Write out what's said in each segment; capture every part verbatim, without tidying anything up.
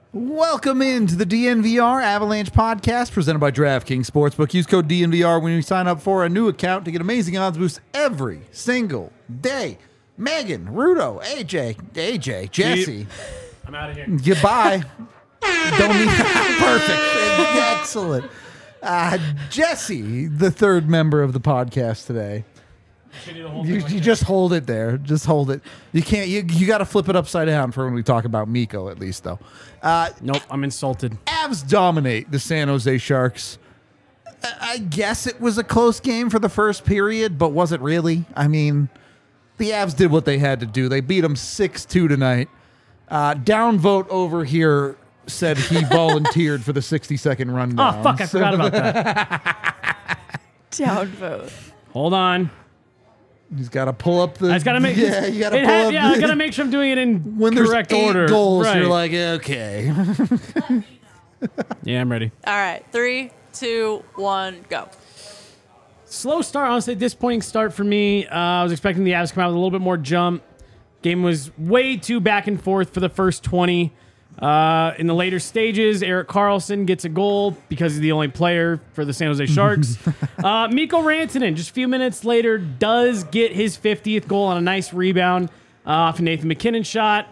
Welcome into the D N V R Avalanche podcast presented by DraftKings Sportsbook. Use code D N V R when you sign up for a new account to get amazing odds boosts every single day. Megan, Rudo, A J, A J, Jesse. I'm out of here. Goodbye. Don't need perfect. Excellent. Uh, Jesse, the third member of the podcast today. You, you just hold it there. Just hold it. You can't. You you got to flip it upside down for when we talk about Mikko, at least, though. Uh, Nope, I'm insulted. Avs dominate the San Jose Sharks. I I guess it was a close game for the first period, but was it really? I mean, the Avs did what they had to do. They beat them six two tonight. Uh, downvote over here said he volunteered for the sixty-second rundown. Oh, fuck, I forgot about that. Downvote. Hold on. He's got to pull up the. I just gotta make Yeah, you got to it pull ha- up. Yeah, the, I gotta make sure I'm doing it in when there's correct eight order. goals, Right. you're like, okay. Yeah, I'm ready. All right, three, two, one, go. Slow start, honestly, disappointing start for me. Uh, I was expecting the Avs to come out with a little bit more jump. Game was way too back and forth for the first twenty. Uh, in the later stages, Erik Karlsson gets a goal because he's the only player for the San Jose Sharks. uh, Mikko Rantanen, just a few minutes later, does get his fiftieth goal on a nice rebound uh, off a Nathan MacKinnon shot.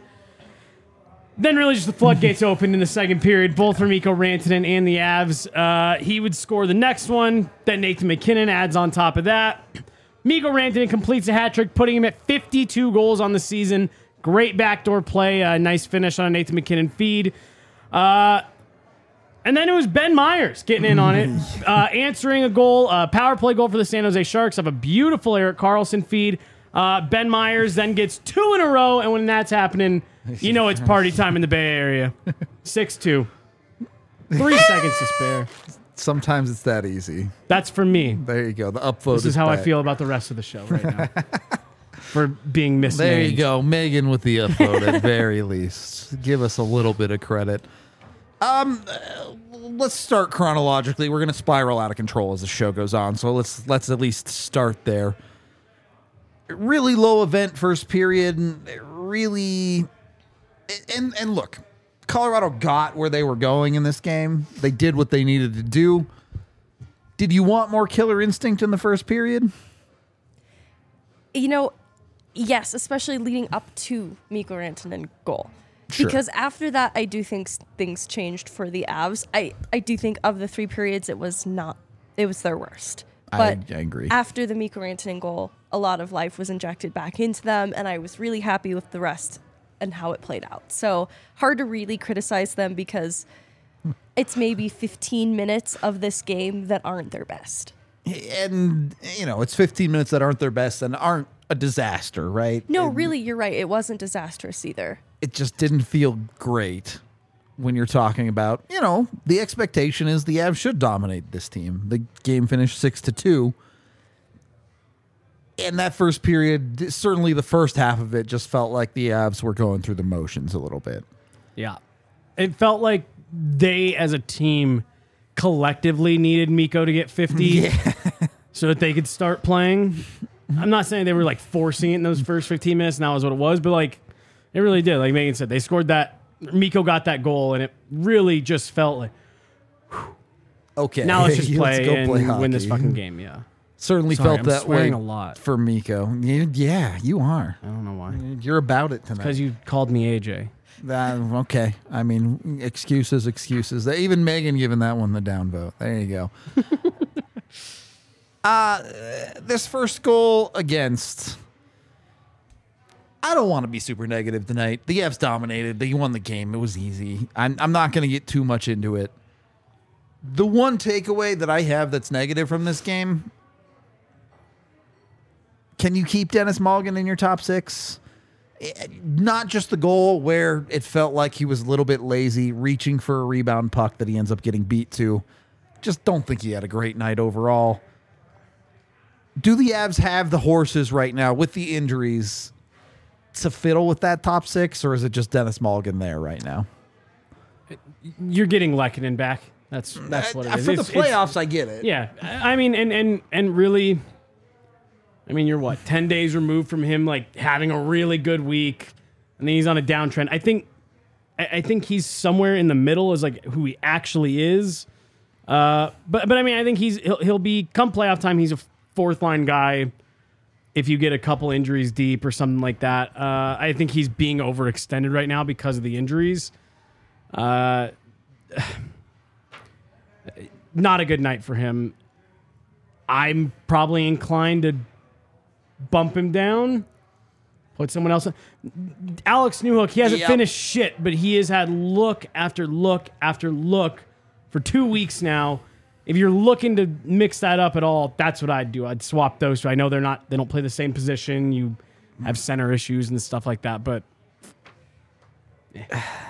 Then really just the floodgates opened in the second period, both for Mikko Rantanen and the Avs. Uh, he would score the next one. Then Nathan MacKinnon adds on top of that. Mikko Rantanen completes a hat trick, putting him at fifty-two goals on the season. Great backdoor play. Uh, nice finish on a Nathan MacKinnon feed. Uh, and then it was Ben Myers getting in on it, uh, answering a goal, uh, power play goal for the San Jose Sharks of a beautiful Erik Karlsson feed. Uh, Ben Myers then gets two in a row, and when that's happening, you know it's party time in the Bay Area. six two. Three seconds to spare. Sometimes it's that easy. That's for me. There you go. The upvote. This is how back. I feel about the rest of the show right now. For being misnamed. There you go, Megan with the upvote at very least. Give us a little bit of credit. Um, uh, let's start chronologically. We're gonna spiral out of control as the show goes on, so let's let's at least start there. Really low event first period, and really, and and look, Colorado got where they were going in this game. They did what they needed to do. Did you want more killer instinct in the first period? You know, yes, especially leading up to Mikko Rantanen goal. Sure. Because after that, I do think s- things changed for the Avs. I, I do think of the three periods, it was not, it was their worst. I- But I agree. after the Mikko Rantanen goal, a lot of life was injected back into them, and I was really happy with the rest and how it played out. So hard to really criticize them because it's maybe fifteen minutes of this game that aren't their best. And, you know, it's fifteen minutes that aren't their best and aren't a disaster, right? No, It- really, you're right. It wasn't disastrous either. It just didn't feel great when you're talking about, you know, the expectation is the Avs should dominate this team. The game finished six to two. And that first period, certainly the first half of it, just felt like the Avs were going through the motions a little bit. Yeah. It felt like they, as a team, collectively needed Mikko to get fifty so that they could start playing. I'm not saying they were like forcing it in those first fifteen minutes, and that was what it was, but like it really did. Like Megan said, they scored that. Mikko got that goal, and it really just felt like, Okay. now let's just let's play go and play win this hockey. fucking game. Yeah. Certainly Sorry, felt I'm that way swearing a lot. for Mikko. You- Yeah, you are. I don't know why. You're about it tonight. Because you called me A J. Uh, okay. I mean, excuses, excuses. Even Megan giving that one the downvote. There you go. uh, this first goal against... I don't want to be super negative tonight. The Avs dominated. They won the game. It was easy. I'm, I'm not going to get too much into it. The one takeaway that I have that's negative from this game... Can you keep Dennis Mulligan in your top six? Not just the goal where it felt like he was a little bit lazy, reaching for a rebound puck that he ends up getting beat to. Just don't think he had a great night overall. Do the Avs have the horses right now with the injuries to fiddle with that top six, or is it just Dennis Mulligan there right now? You're getting Lehkonen back. That's that's what it Uh, is. For the It's- it's- playoffs, I get it. Yeah, I I mean, and and and really, I mean, you're what ten days removed from him like having a really good week, and then he's on a downtrend. I think I, I think he's somewhere in the middle as like who he actually is. Uh, but but I mean, I think he's he'll, he'll be come playoff time. He's a fourth line guy. If you get a couple injuries deep or something like that, uh, I think he's being overextended right now because of the injuries. Uh, not a good night for him. I'm probably inclined to bump him down, put someone else in. Alex Newhook, he hasn't Yep. finished shit, but he has had look after look after look for two weeks now. If you're looking to mix that up at all, that's what I'd do. I'd swap those two. I know they're not, they don't play the same position. You have center issues and stuff like that, but eh.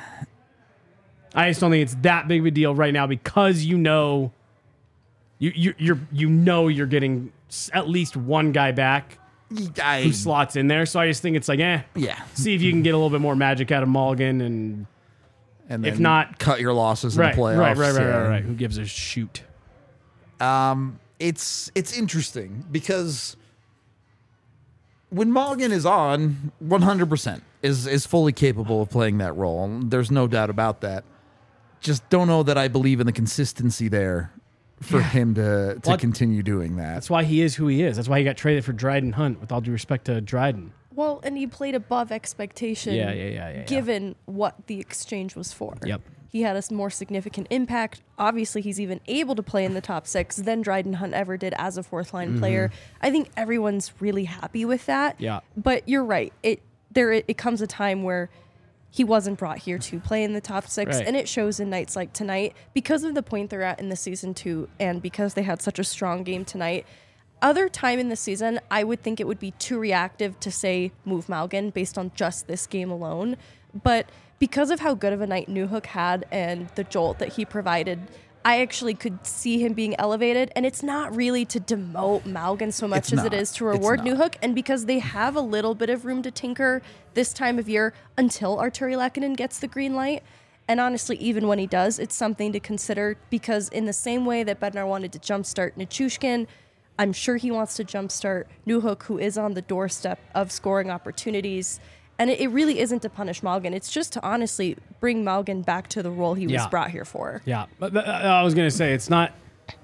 I just don't think it's that big of a deal right now because you know, you you you're you know you're getting s- at least one guy back I, who slots in there. So I just think it's like, eh, yeah. see if you can get a little bit more magic out of Mulligan, and And if then not- cut your losses in right, the playoffs. right, right, right, yeah. right, right. Who gives a shoot? Um, it's it's interesting because when Mulligan is on, one hundred percent is is fully capable of playing that role. There's no doubt about that. Just don't know that I believe in the consistency there for him to to Well, continue doing that. That's why he is who he is. That's why he got traded for Dryden Hunt. With all due respect to Dryden. Well, and he played above expectation. Yeah, yeah, yeah, yeah, yeah. Given what the exchange was for. Yep. He had a s- more significant impact. Obviously, he's even able to play in the top six than Dryden Hunt ever did as a fourth line player. I think everyone's really happy with that. Mm-hmm. Yeah. But you're right. It there it, it comes a time where he wasn't brought here to play in the top six, Right. and it shows in nights like tonight because of the point they're at in the season two, and because they had such a strong game tonight. Other time in the season, I would think it would be too reactive to say move Malgin based on just this game alone. But because of how good of a night Newhook had and the jolt that he provided, I actually could see him being elevated. And it's not really to demote Malgin so much It's as it not. is to It's reward not. Newhook. And because they have a little bit of room to tinker this time of year until Arturi Lehkonen gets the green light. And honestly, even when he does, it's something to consider because in the same way that Bednar wanted to jumpstart Nichushkin, I'm sure he wants to jumpstart Newhook, who is on the doorstep of scoring opportunities. And it, it really isn't to punish Malgin. It's just to honestly bring Malgin back to the role he was Yeah. brought here for. Yeah, but, but, uh, I was gonna say it's not.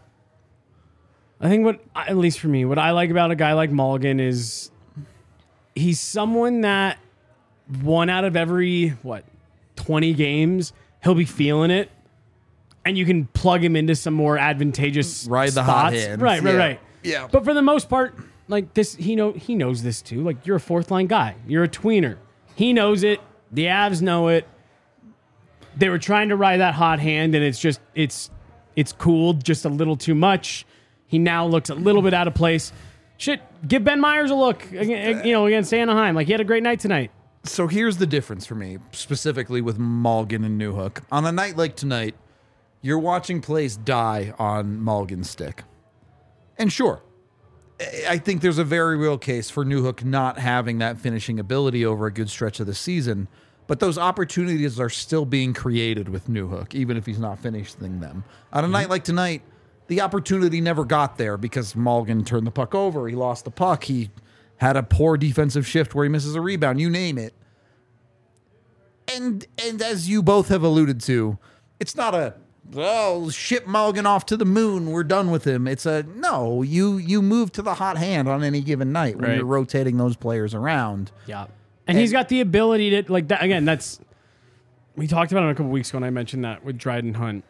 I think what, at least for me, what I like about a guy like Mulligan is he's someone that one out of every what twenty games he'll be feeling it, and you can plug him into some more advantageous Ride the spots. hot hand. Right, right, Yeah. right. Yeah. But for the most part, like this, he know he knows this too. Like you're a fourth line guy, you're a tweener. He knows it. The Avs know it. They were trying to ride that hot hand, and it's just it's it's cooled just a little too much. He now looks a little bit out of place. Shit, give Ben Myers a look. You know, against Anaheim. Like he had a great night tonight. So here's the difference for me, specifically with Mulligan and Newhook. On a night like tonight, you're watching plays die on Mulligan's stick. And sure, I- I think there's a very real case for Newhook not having that finishing ability over a good stretch of the season. But those opportunities are still being created with Newhook, even if he's not finishing them. On a night like tonight, the opportunity never got there because Mulligan turned the puck over. He lost the puck. He had a poor defensive shift where he misses a rebound. You name it. And and as you both have alluded to, it's not a oh ship Mulligan off to the moon. We're done with him. It's a no. You you move to the hot hand on any given night when Right. you're rotating those players around. Yeah. And he's got the ability to, like, that again, that's, we talked about it a couple weeks ago, and I mentioned that with Dryden Hunt.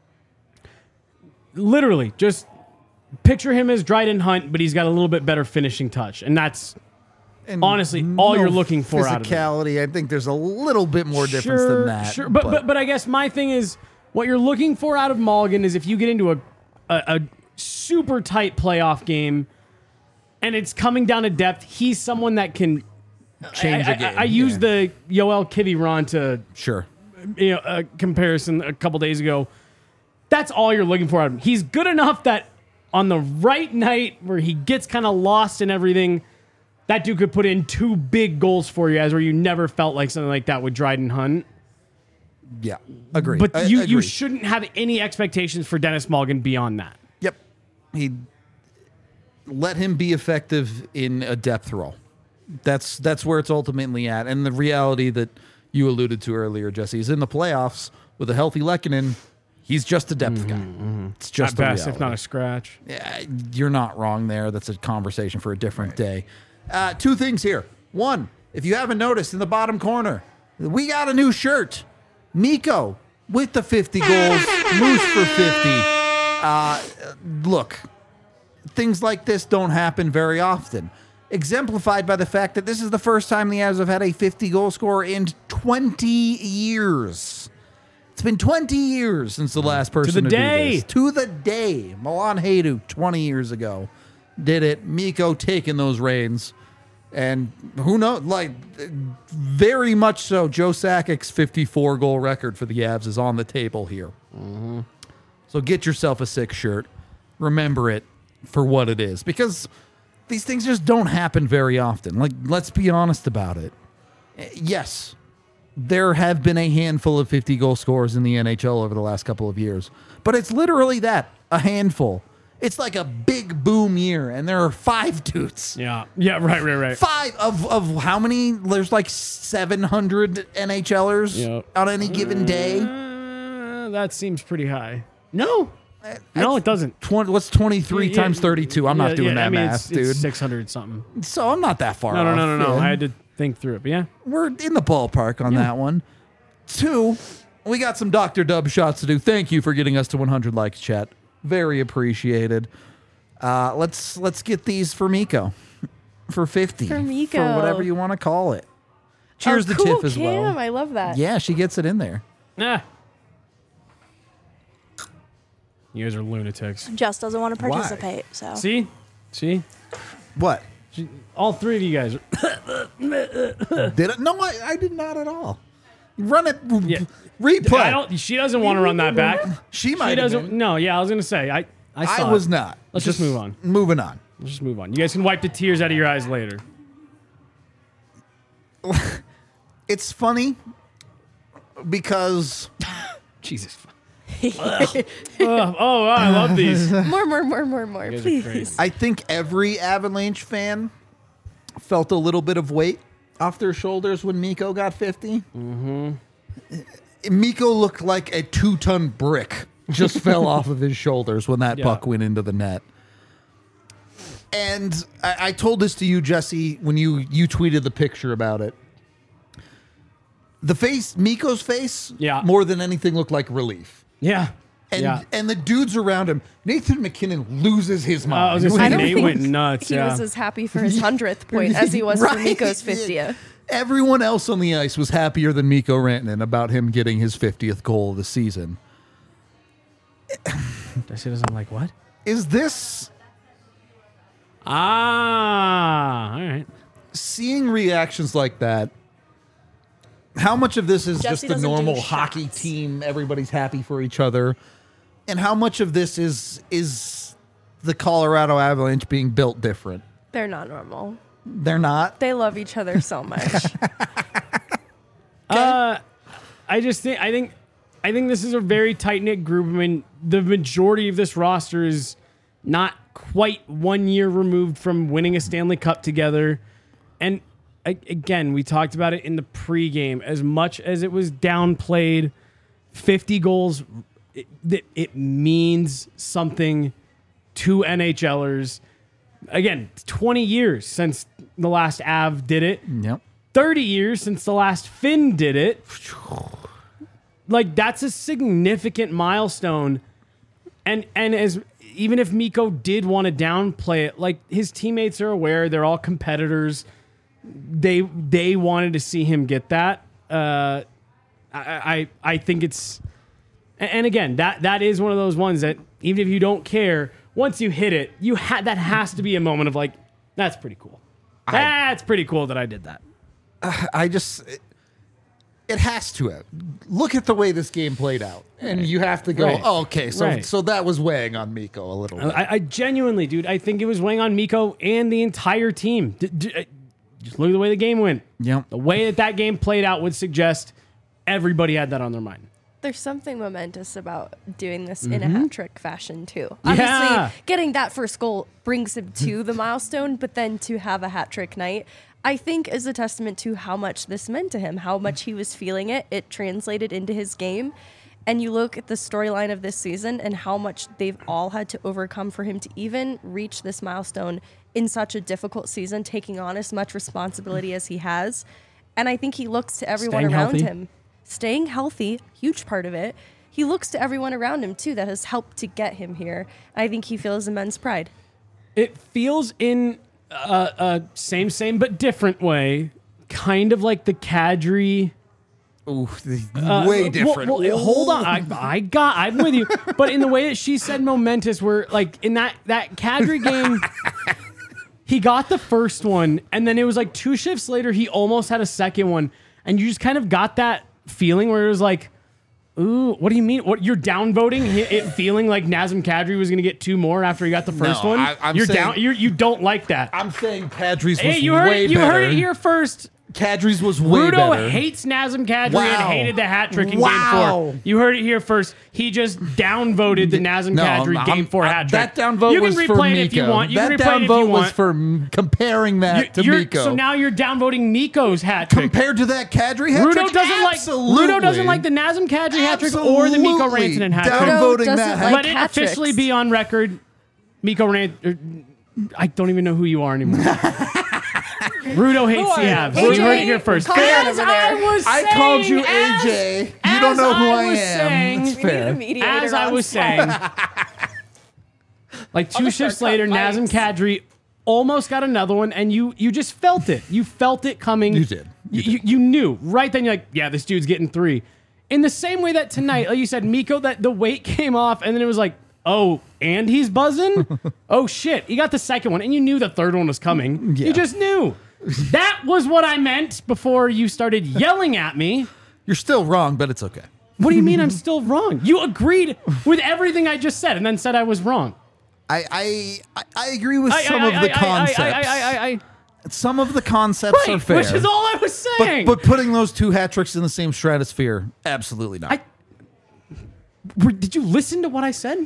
Literally, just picture him as Dryden Hunt, but he's got a little bit better finishing touch. And that's And honestly all you're looking for out of him. physicality. I think there's a little bit more difference Sure, than that. Sure, but, but but I guess my thing is what you're looking for out of Mulligan is if you get into a a, a super tight playoff game and it's coming down to depth, he's someone that can change I, a game. I, I used yeah. the Yoel Kiviranta sure. you know uh, comparison a couple days ago. That's all you're looking for out of him. He's good enough that on the right night where he gets kind of lost in everything, that dude could put in two big goals for you, as where you never felt like something like that with Dryden Hunt. Yeah, agree. But I- you, you agree. shouldn't have any expectations for Dennis Mulligan beyond that. Yep. He let him be effective in a depth role. That's that's where it's ultimately at. And the reality that you alluded to earlier, Jesse. He's in the playoffs with a healthy Lehkonen. He's just a depth guy. It's just At the best, if reality. not a scratch. Yeah, you're not wrong there. That's a conversation for a different day. Uh, two things here. One, if you haven't noticed, in the bottom corner, we got a new shirt. Mikko with the fifty goals. Moose for fifty. Uh, look, things like this don't happen very often. Exemplified by the fact that this is the first time the Avs have had a fifty-goal scorer in twenty years. It's been twenty years since the last person to, the do day. this. To the day. Milan Hajduk, twenty years ago, did it. Mikko taking those reins. And who knows, like, very much so, Joe Sakic's fifty-four goal record for the Avs is on the table here. Mm-hmm. So get yourself a sick shirt. Remember it for what it is. Because these things just don't happen very often. Like, let's be honest about it. Yes, there have been a handful of fifty-goal scorers in the N H L over the last couple of years. But it's literally that, a handful. It's like a big boom year, and there are five dudes. Yeah. Yeah, right, right, right. Five of, of how many? There's like seven hundred NHLers Yep. on any given day. Uh, that seems pretty high. No. No, it doesn't. twenty, what's twenty-three Yeah, times thirty-two? I'm yeah, not doing yeah, that I mean, math, it's, dude. It's six hundred something. So I'm not that far No, no, off. no, no, no. Yeah. I had to think through it, but yeah. We're in the ballpark on that one. Two, we got some Doctor Dub shots to do. Thank you for getting us to one hundred likes, chat. Very appreciated. Uh, let's let's get these for Mikko for fifty. For Mikko. For whatever you want to call it. Cheers oh, to cool, Tiff as Cam. well. I love that. Yeah, she gets it in there. Nah. You guys are lunatics. Jess doesn't want to participate, so. See? See? What? She, all three of you guys are. Did it? No, I, I did not at all. Run it. Yeah. Replay. I don't. She doesn't want to run that back. She She might have doesn't. been. No, yeah, I was gonna say. I. I, saw I it. was not. Let's just move on. Moving on. Let's just move on. You guys can wipe the tears out of your eyes later. It's funny because Jesus. oh, oh, I love these. You More, more, more, more, more, guys are please. crazy. I think every Avalanche fan felt a little bit of weight off their shoulders when Mikko got fifty. Mm-hmm. Mikko looked like a two-ton brick just fell off of his shoulders when that Yeah. puck went into the net. And I, I told this to you, Jesse, when you you tweeted the picture about it. The face, Mikko's face, Yeah. more than anything looked like relief. Yeah. And yeah. and the dudes around him, Nathan McKinnon loses his Uh, mind. I was gonna I say don't Nate think went nuts. He Yeah. was as happy for his hundredth point as he was for Right. Mikko's fiftieth. Everyone else on the ice was happier than Mikko Rantanen about him getting his fiftieth goal of the season. Jesse doesn't like what? Is this Ah. All right. seeing reactions like that? How much of this is Jesse just the doesn't do normal hockey shots. team? Everybody's happy for each other, and how much of this is is the Colorado Avalanche being built different? They're not normal. They're not. They love each other so much. Uh, I just think I think I think this is a very tight knit group. I mean, the majority of this roster is not quite one year removed from winning a Stanley Cup together, and a- again, we talked about it in the pregame. As much as it was downplayed, fifty goals, it, it, it means something to NHLers. Again, twenty years since the last Av did it. Yep. thirty years since the last Finn did it. Like, that's a significant milestone. And and as even if Mikko did want to downplay it, like, his teammates are aware, they're all competitors. They they wanted to see him get that. Uh, I, I I think it's and again, that that is one of those ones that even if you don't care, once you hit it, you ha- that has to be a moment of like, that's pretty cool. That's pretty cool that I did that. I just it, it has to have. Look at the way this game played out, and you have to go. Right. Oh, okay, so Right. so that was weighing on Mikko a little bit. I, I genuinely, dude, I think it was weighing on Mikko and the entire team. D- d- uh, just look at the way the game went. Yep. The way that that game played out would suggest everybody had that on their mind. There's something momentous about doing this in a hat trick fashion too. Yeah. Obviously, getting that first goal brings him to the milestone, but then to have a hat trick night, I think is a testament to how much this meant to him, how much he was feeling it. It translated into his game. And you look at the storyline of this season and how much they've all had to overcome for him to even reach this milestone in such a difficult season, taking on as much responsibility as he has. And I think he looks to everyone Staying around healthy. him. Staying healthy, huge part of it. He looks to everyone around him, too, that has helped to get him here. I think he feels immense pride. It feels in a, a same, same, but different way, kind of like the Kadri. Ooh, Uh, way well, different. well, hold on, I, I got, I'm with you. But in the way that she said momentous, where like in that that Kadri game, he got the first one, and then it was like two shifts later, he almost had a second one, and you just kind of got that feeling where it was like, ooh, what do you mean? What you're downvoting it, it feeling like Nazem Kadri was going to get two more after he got the first No, one? I- I'm you're saying- down. You're, you don't like that. I'm saying Kadri's was hey, you heard way it, you better. heard it here first. Kadri's was way Rudo better. hates Nazem Kadri Wow. and hated the hat trick in Wow. game four. You heard it here first. He just downvoted the Nazem No, Kadri I'm- game four I'm- hat trick. That downvote you can was replay for it Miko. if you want. You that can replay it if downvote you was want. for m- comparing that to You're- Miko. So now you're downvoting Miko's hat trick. compared to that Kadri hat Rudo trick, doesn't absolutely. like Rudo doesn't like the Nazem Kadri hat trick or the Miko Absolutely. Rantanen hat trick. Downvoting Rudo that doesn't hat like Let it hat officially tricks. be on record. Miko Rantanen. I don't even know who you are anymore. Rudo hates the Avs. A J, You heard it here first. calm down As over there. I was I saying, called you as- A J. You as don't know who I, was am. saying- It's We need a fair. mediator As I on was set. saying, like two just shifts start later, cutting Nazem Kadri almost got another one, and you you just felt it. You felt it coming. You did. You, you, you knew right then. You're like, yeah, this dude's getting three. In the same way that tonight, like you said, Miko, that the weight came off, and then it was like, oh, and he's buzzing. Oh shit, he got the second one, and you knew the third one was coming. Yeah. You just knew. That was what I meant before you started yelling at me. You're still wrong, but it's okay. What do you mean I'm still wrong? You agreed with everything I just said and then said I was wrong. I I I- I agree with I- some I- of the I- I- concepts. I- I- I- I- Some of the concepts Right, are fair. which is all I was but, saying. but putting those two hat tricks in the same stratosphere, absolutely not. I, were- did you listen to what I said?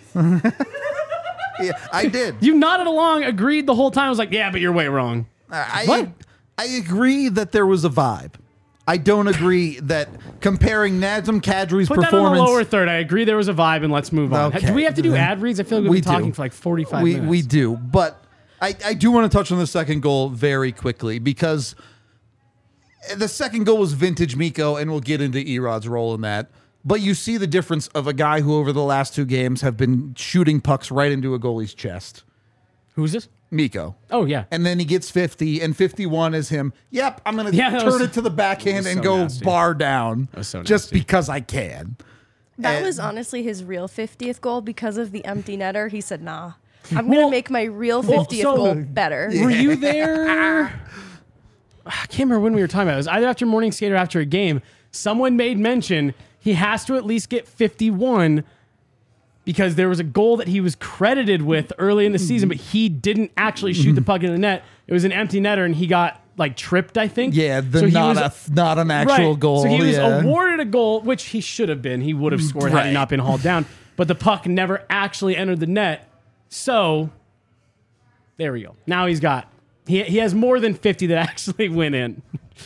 yeah, I did. You nodded along, agreed the whole time. I was like, yeah, but you're way wrong. I, What? I agree that there was a vibe. I don't agree that comparing Nazem Kadri's Put that on performance. the lower third. I agree there was a vibe, and let's move on. Okay. Do we have to do ad reads? I feel like we've We been talking do. for like forty-five we, minutes. We do, but I, I do want to touch on the second goal very quickly because the second goal was vintage Miko, and we'll get into Erod's role in that. But you see the difference of a guy who over the last two games have been shooting pucks right into a goalie's chest. Who's this? Miko. Oh, yeah. And then he gets fifty, and fifty-one is him. Yep, I'm going to Yeah, that turn was- it to the backhand that was and so go nasty. bar down was so just nasty. because I can. That And- was honestly his real fiftieth goal because of the empty netter. He said, nah, I'm Well- going to make my real well, fiftieth so- goal better. Were you there? I can't remember when we were talking about it. It was either after morning skate or after a game. Someone made mention he has to at least get fifty-one because there was a goal that he was credited with early in the season, but he didn't actually shoot the puck in the net. It was an empty netter, and he got like tripped, I think. Yeah, the So he not, was- a, not an actual right. goal. So he was yeah. awarded a goal, which he should have been. He would have scored had he Right. not been hauled down. But the puck never actually entered the net. So there we go. Now he's got he he has more than fifty that actually went in.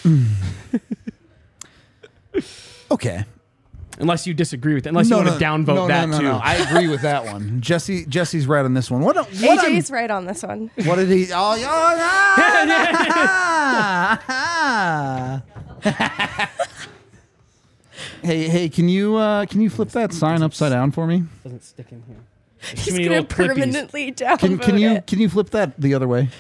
Okay. Unless you disagree with it. Unless you want to downvote no, that no, no, too. no. I agree with that one. Jesse Jesse's right on this one. What? What, A J's right on this one. what did he? Oh, yeah. hey, hey, can you uh, can you flip that sign upside down for me? Doesn't stick in here. There's He's too many going little to clippies. permanently downvote Can can you it. can you flip that the other way?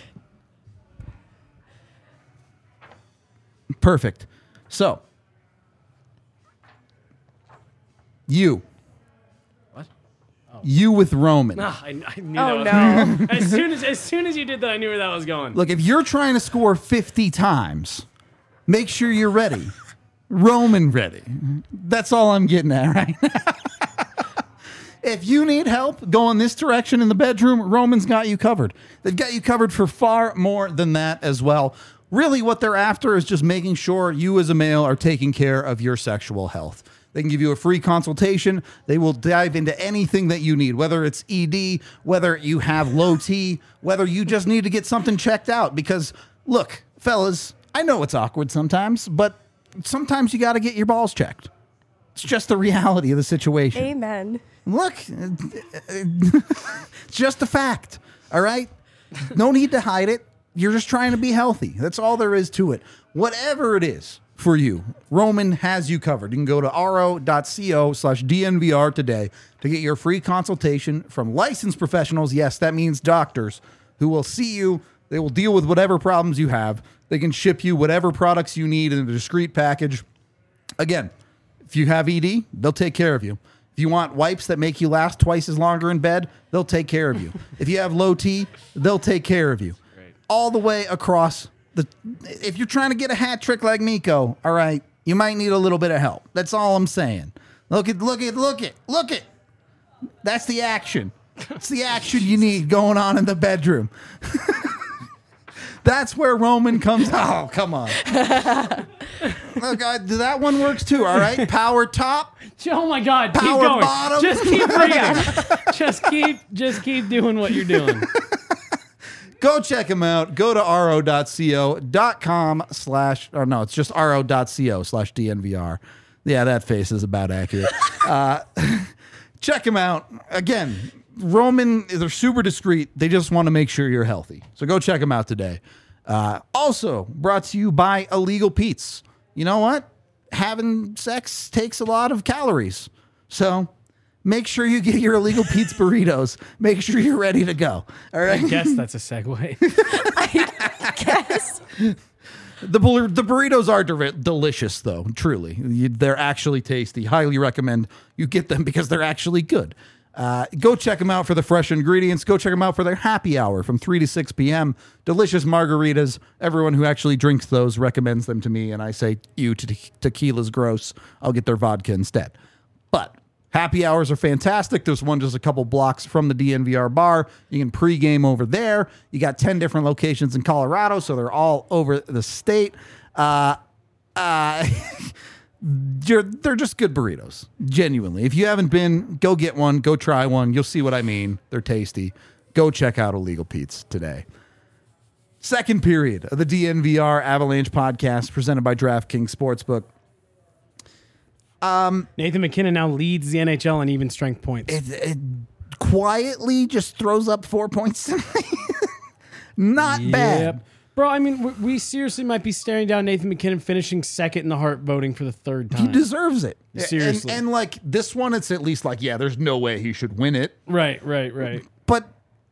Perfect. So, you. What? You with Roman. Ah, I, I knew Oh, that was no. as soon as as soon as you did that, I knew where that was going. Look, if you're trying to score fifty times, make sure you're ready. Roman ready. That's all I'm getting at right now. If you need help going this direction in the bedroom, Roman's got you covered. They've got you covered for far more than that as well. Really, what they're after is just making sure you as a male are taking care of your sexual health. They can give you a free consultation. They will dive into anything that you need, whether it's E D, whether you have low T, whether you just need to get something checked out. Because, look, fellas, I know it's awkward sometimes, but sometimes you got to get your balls checked. It's just the reality of the situation. Amen. Look, it's just a fact. All right? No need to hide it. You're just trying to be healthy. That's all there is to it. Whatever it is for you, Roman has you covered. You can go to ro.co slash DNVR today to get your free consultation from licensed professionals. Yes, that means doctors who will see you. They will deal with whatever problems you have. They can ship you whatever products you need in a discreet package. Again, if you have E D, they'll take care of you. If you want wipes that make you last twice as longer in bed, they'll take care of you. If you have low T, they'll take care of you. Great. All the way across the. If you're trying to get a hat trick like Miko, all right, you might need a little bit of help. That's all I'm saying. Look at, look at, look at, look at. That's the action. It's the action you need going on in the bedroom. That's where Roman comes. Oh, come on. Look, I, that one works too. All right, power top. Oh my God! Power keep going. bottom. Just keep reading. just keep, just keep doing what you're doing. Go check them out. Go to ro.co.com slash, or no, it's just ro.co slash DNVR. Yeah, that face is about accurate. uh, check them out. Again, Roman, they're super discreet. They just want to make sure you're healthy. So go check them out today. Uh, also brought to you by Illegal Pete's. You know what? Having sex takes a lot of calories. So make sure you get your Illegal Pete's burritos. Make sure you're ready to go. All right. I guess that's a segue. I guess. The, bur- the burritos are de- delicious, though, truly. You, they're actually tasty. Highly recommend you get them because they're actually good. Uh, go check them out for the fresh ingredients. Go check them out for their happy hour from three to six p.m. Delicious margaritas. Everyone who actually drinks those recommends them to me, and I say, you, te- tequila's gross. I'll get their vodka instead. But happy hours are fantastic. There's one just a couple blocks from the D N V R bar. You can pregame over there. You got ten different locations in Colorado, so they're all over the state. Uh, uh, you're, they're just good burritos, genuinely. If you haven't been, go get one. Go try one. You'll see what I mean. They're tasty. Go check out Illegal Pete's today. Second period of the D N V R Avalanche podcast presented by DraftKings Sportsbook. Um, Nathan MacKinnon now leads the N H L in even strength points. It, it quietly just throws up four points. Not yep. bad. Bro, I mean, we, we seriously might be staring down Nathan MacKinnon finishing second in the Hart voting for the third time. He deserves it. Seriously. And, and like this one, it's at least like, yeah, there's no way he should win it. Right, right, right. But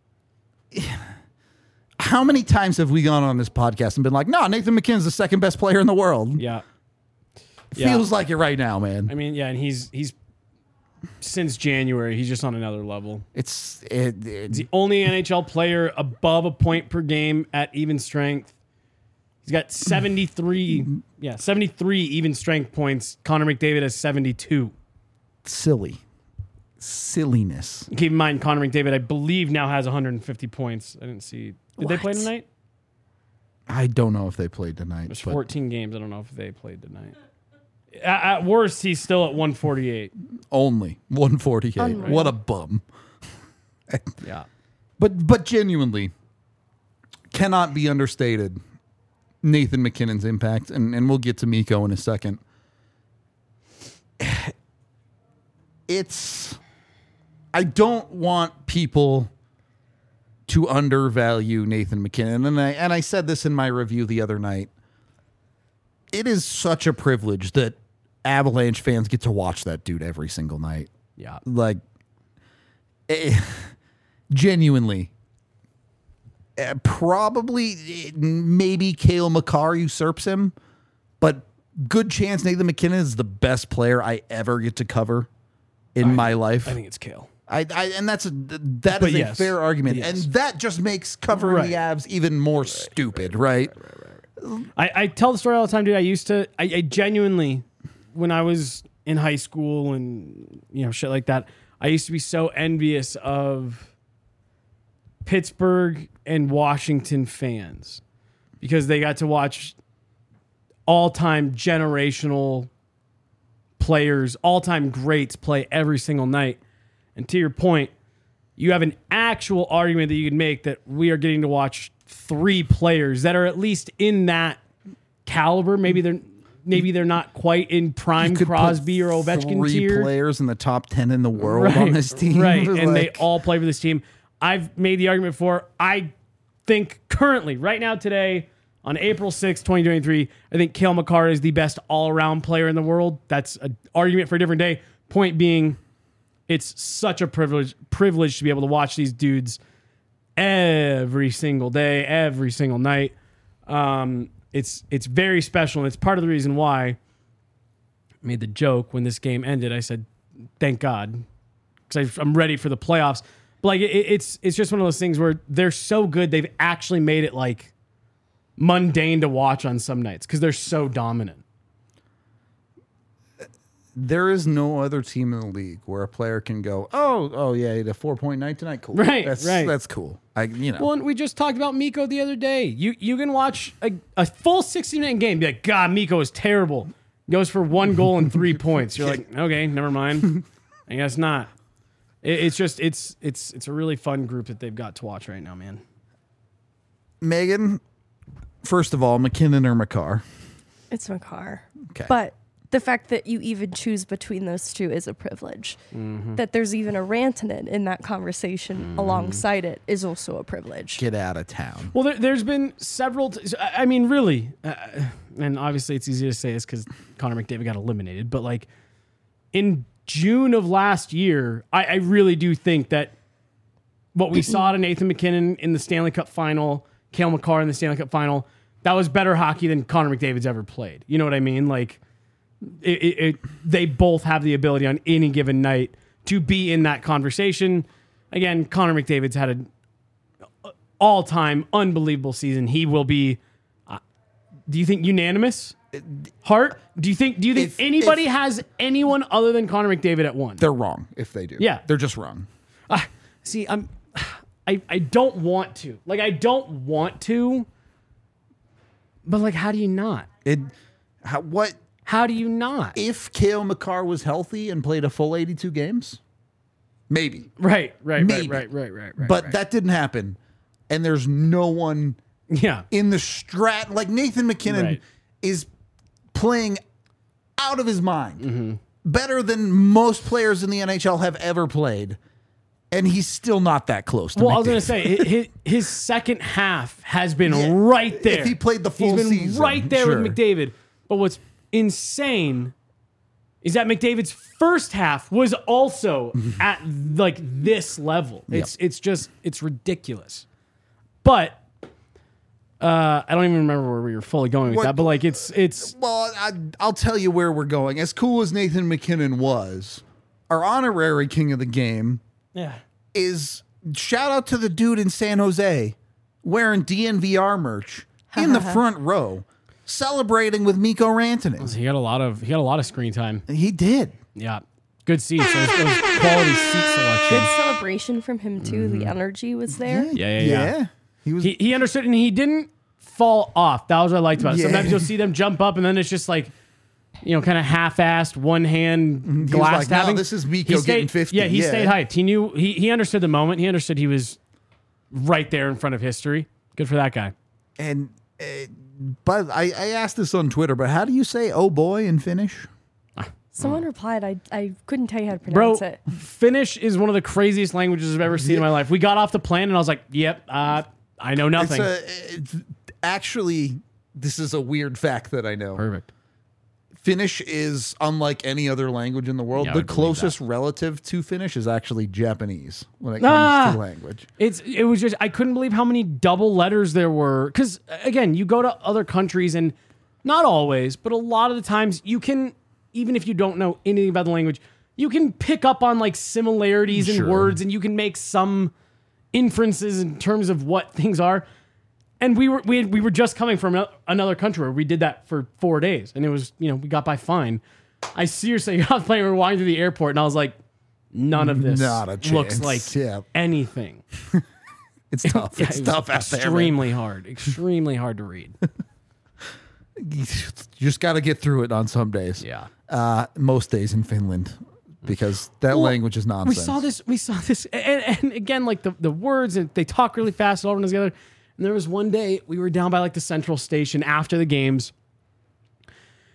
how many times have we gone on this podcast and been like, no, Nathan MacKinnon's the second best player in the world? Yeah. Feels yeah. like it right now, man. I mean, yeah, and he's he's since January, he's just on another level. It's it, it, he's the only N H L player above a point per game at even strength. He's got seventy-three, yeah, seventy-three even strength points. Connor McDavid has seventy-two. Silly. Silliness. Keep in mind, Connor McDavid, I believe, now has one hundred fifty points. I didn't see. Did what? they play tonight? I don't know if they played tonight. There's fourteen games. I don't know if they played tonight. At, at worst, he's still at one forty-eight. Only one forty-eight. Unreal. What a bum. Yeah. But but genuinely, cannot be understated Nathan MacKinnon's impact, and, and we'll get to Miko in a second. It's... I don't want people to undervalue Nathan MacKinnon, and I and I said this in my review the other night. It is such a privilege that Avalanche fans get to watch that dude every single night. Yeah. Like, eh, genuinely. Uh, probably, eh, maybe Cale Makar usurps him, but good chance Nathan MacKinnon is the best player I ever get to cover in I, my life. I think it's Cale. I, I and that's a that But is yes. a fair argument, Yes. and that just makes covering Right. the Avs even more right, stupid, right? right, right, right, right. I, I tell the story all the time, dude. I used to, I, I genuinely, when I was in high school and you know shit like that, I used to be so envious of Pittsburgh and Washington fans because they got to watch all-time generational players, all-time greats play every single night. And to your point, you have an actual argument that you could make that we are getting to watch three players that are at least in that caliber. Maybe they're maybe they're not quite in prime You could put Crosby or Ovechkin three tier. players in the top ten in the world on this team, right? And they Like, all play for this team. I've made the argument for. I think currently, right now, today, on April sixth, twenty twenty-three, I think Cale Makar is the best all-around player in the world. That's an argument for a different day. Point being, it's such a privilege privilege to be able to watch these dudes every single day, every single night. Um, it's it's very special, and it's part of the reason why I made the joke when this game ended. I said, "Thank God," because I'm ready for the playoffs. But like, it, it's it's just one of those things where they're so good, they've actually made it like mundane to watch on some nights because they're so dominant. there is no other team in the league where a player can go, oh, oh yeah, he had a four point night tonight. Cool, Right, That's, right. That's cool. I, you know, Well, and we just talked about Miko the other day. You you can watch a, a full sixty minute game, be like, God, Miko is terrible. Goes for one goal and three points. You're like, okay, never mind. I guess not. It, it's just it's it's it's a really fun group that they've got to watch right now, man. Megan. First of all, McKinnon or Makar. It's Makar. Okay. But the fact that you even choose between those two is a privilege. Mm-hmm. That there's even a Rantanen in that conversation alongside it is also a privilege. Get out of town. Well, there, there's been several. T- I I mean, really, uh, and obviously it's easy to say this because Connor McDavid got eliminated. But like in June of last year, I, I really do think that what we saw to Nathan McKinnon in the Stanley Cup final, Cale Makar in the Stanley Cup final, that was better hockey than Connor McDavid's ever played. You know what I mean? Like, it, it, it, they both have the ability on any given night to be in that conversation. Again, Connor McDavid's had an all-time unbelievable season. He will be. Uh, do you think unanimous? Hart? Do you think? Do you think If- anybody if- has anyone other than Connor McDavid at one? They're wrong if they do. Yeah. They're just wrong. Uh, see, I'm. I I don't want to. Like, I don't want to. But like, how do you not? It. How, what How do you not? if Cale Makar was healthy and played a full eighty-two games? Maybe. Right, right, Maybe. right, right, right, right, right. But right. that didn't happen. And there's no one yeah, in the strat. Like Nathan McKinnon Right. is playing out of his mind. Mm-hmm. Better than most players in the N H L have ever played. And he's still not that close to Well, I was McDavid. going to say his, his second half has been Yeah, right there. if he played the full He's been season, right there sure. with McDavid. But what's insane is that McDavid's first half was also at like this level. It's it's just it's ridiculous. But uh, I don't even remember where we were fully going with What- that. But like it's it's Well, I, I'll tell you where we're going. As cool as Nathan McKinnon was, our honorary king of the game yeah. is shout out to the dude in San Jose wearing D N V R merch in the front row, celebrating with Mikko Rantanen. He got a lot of he got a lot of screen time. He did. Yeah, good seats. Those, those quality seat selection. Good celebration from him too. The energy was there. Yeah, yeah, yeah. He was. He, he understood, and he didn't fall off. That was what I liked about it. Yeah. Sometimes you'll see them jump up, and then it's just like, you know, kind of half-assed, one hand He was glass like, no, having. this is Mikko He stayed- getting fifty. Yeah, he Yeah. stayed hyped. He knew he he understood the moment. He understood he was right there in front of history. Good for that guy. and uh, but I, I asked this on Twitter, but how do you say "oh boy" in Finnish? Someone replied, I, I couldn't tell you how to Bro, pronounce it. Finnish is one of the craziest languages I've ever seen in my life. We got off the plane, and I was like, yep, uh, I know nothing. It's a, it's actually, this is a weird fact that I know. Perfect. Finnish is unlike any other language in the world. Yeah, I the would believe closest relative to Finnish is actually Japanese when it comes Ah! to language. It's it was just I couldn't believe how many double letters there were because again you go to other countries and not always but a lot of the times you can even if you don't know anything about the language you can pick up on like similarities in Sure. words and you can make some inferences in terms of what things are. And we were we had, we were just coming from ano- another country where we did that for four days and it was you know we got by fine. I seriously got off the plane, we were walking through the airport and I was like, none of this Not a looks chance. like Yeah. anything. It's tough. Yeah, It's it was tough out there. man. extremely hard, extremely hard to read. You just got to get through it on some days. Yeah. Uh, most days in Finland because that Well, language is We nonsense. saw this. We saw this, and, and again, like the, the words, and they talk really fast, all run together. And there was one day we were down by like the central station after the games,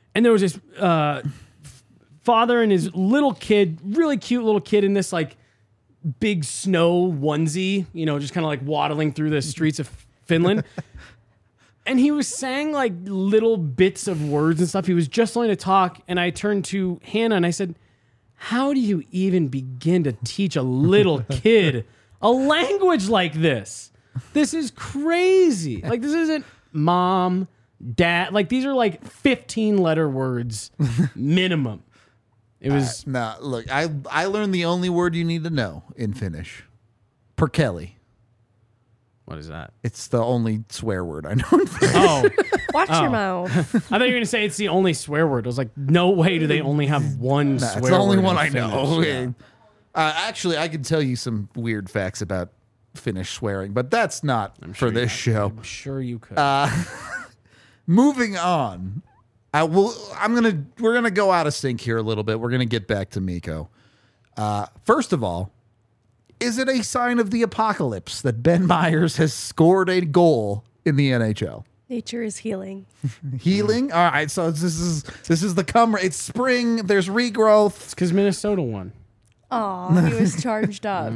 and there was this uh, father and his little kid, really cute little kid in this like big snow onesie, you know, just kind of like waddling through the streets of Finland. And he was saying like little bits of words and stuff. He was just learning to talk. And I turned to Hannah and I said, how do you even begin to teach a little kid a language like this? This is crazy. Like, this isn't mom, dad. Like, these are like fifteen letter words minimum. It was. Uh, nah, look, I, I learned the only word you need to know in Finnish. Perkele. What is that? It's the only swear word I know. Oh, Watch Oh. your mouth. I thought you were going to say it's the only swear word. I was like, no way do they only have one Nah, swear it's the only word one in I know. Finnish. Yeah. Uh, actually, I can tell you some weird facts about Finnish swearing, but that's not for this show. I'm sure you could. Uh, moving on, I will. I'm gonna. We're gonna go out of sync here a little bit. We're gonna get back to Mikko. Uh, first of all, is it a sign of the apocalypse that Ben Myers has scored a goal in the N H L? Nature is healing. Healing. All right. So this is this is the come. It's spring. There's regrowth. It's because Minnesota won. Aw, he was charged up.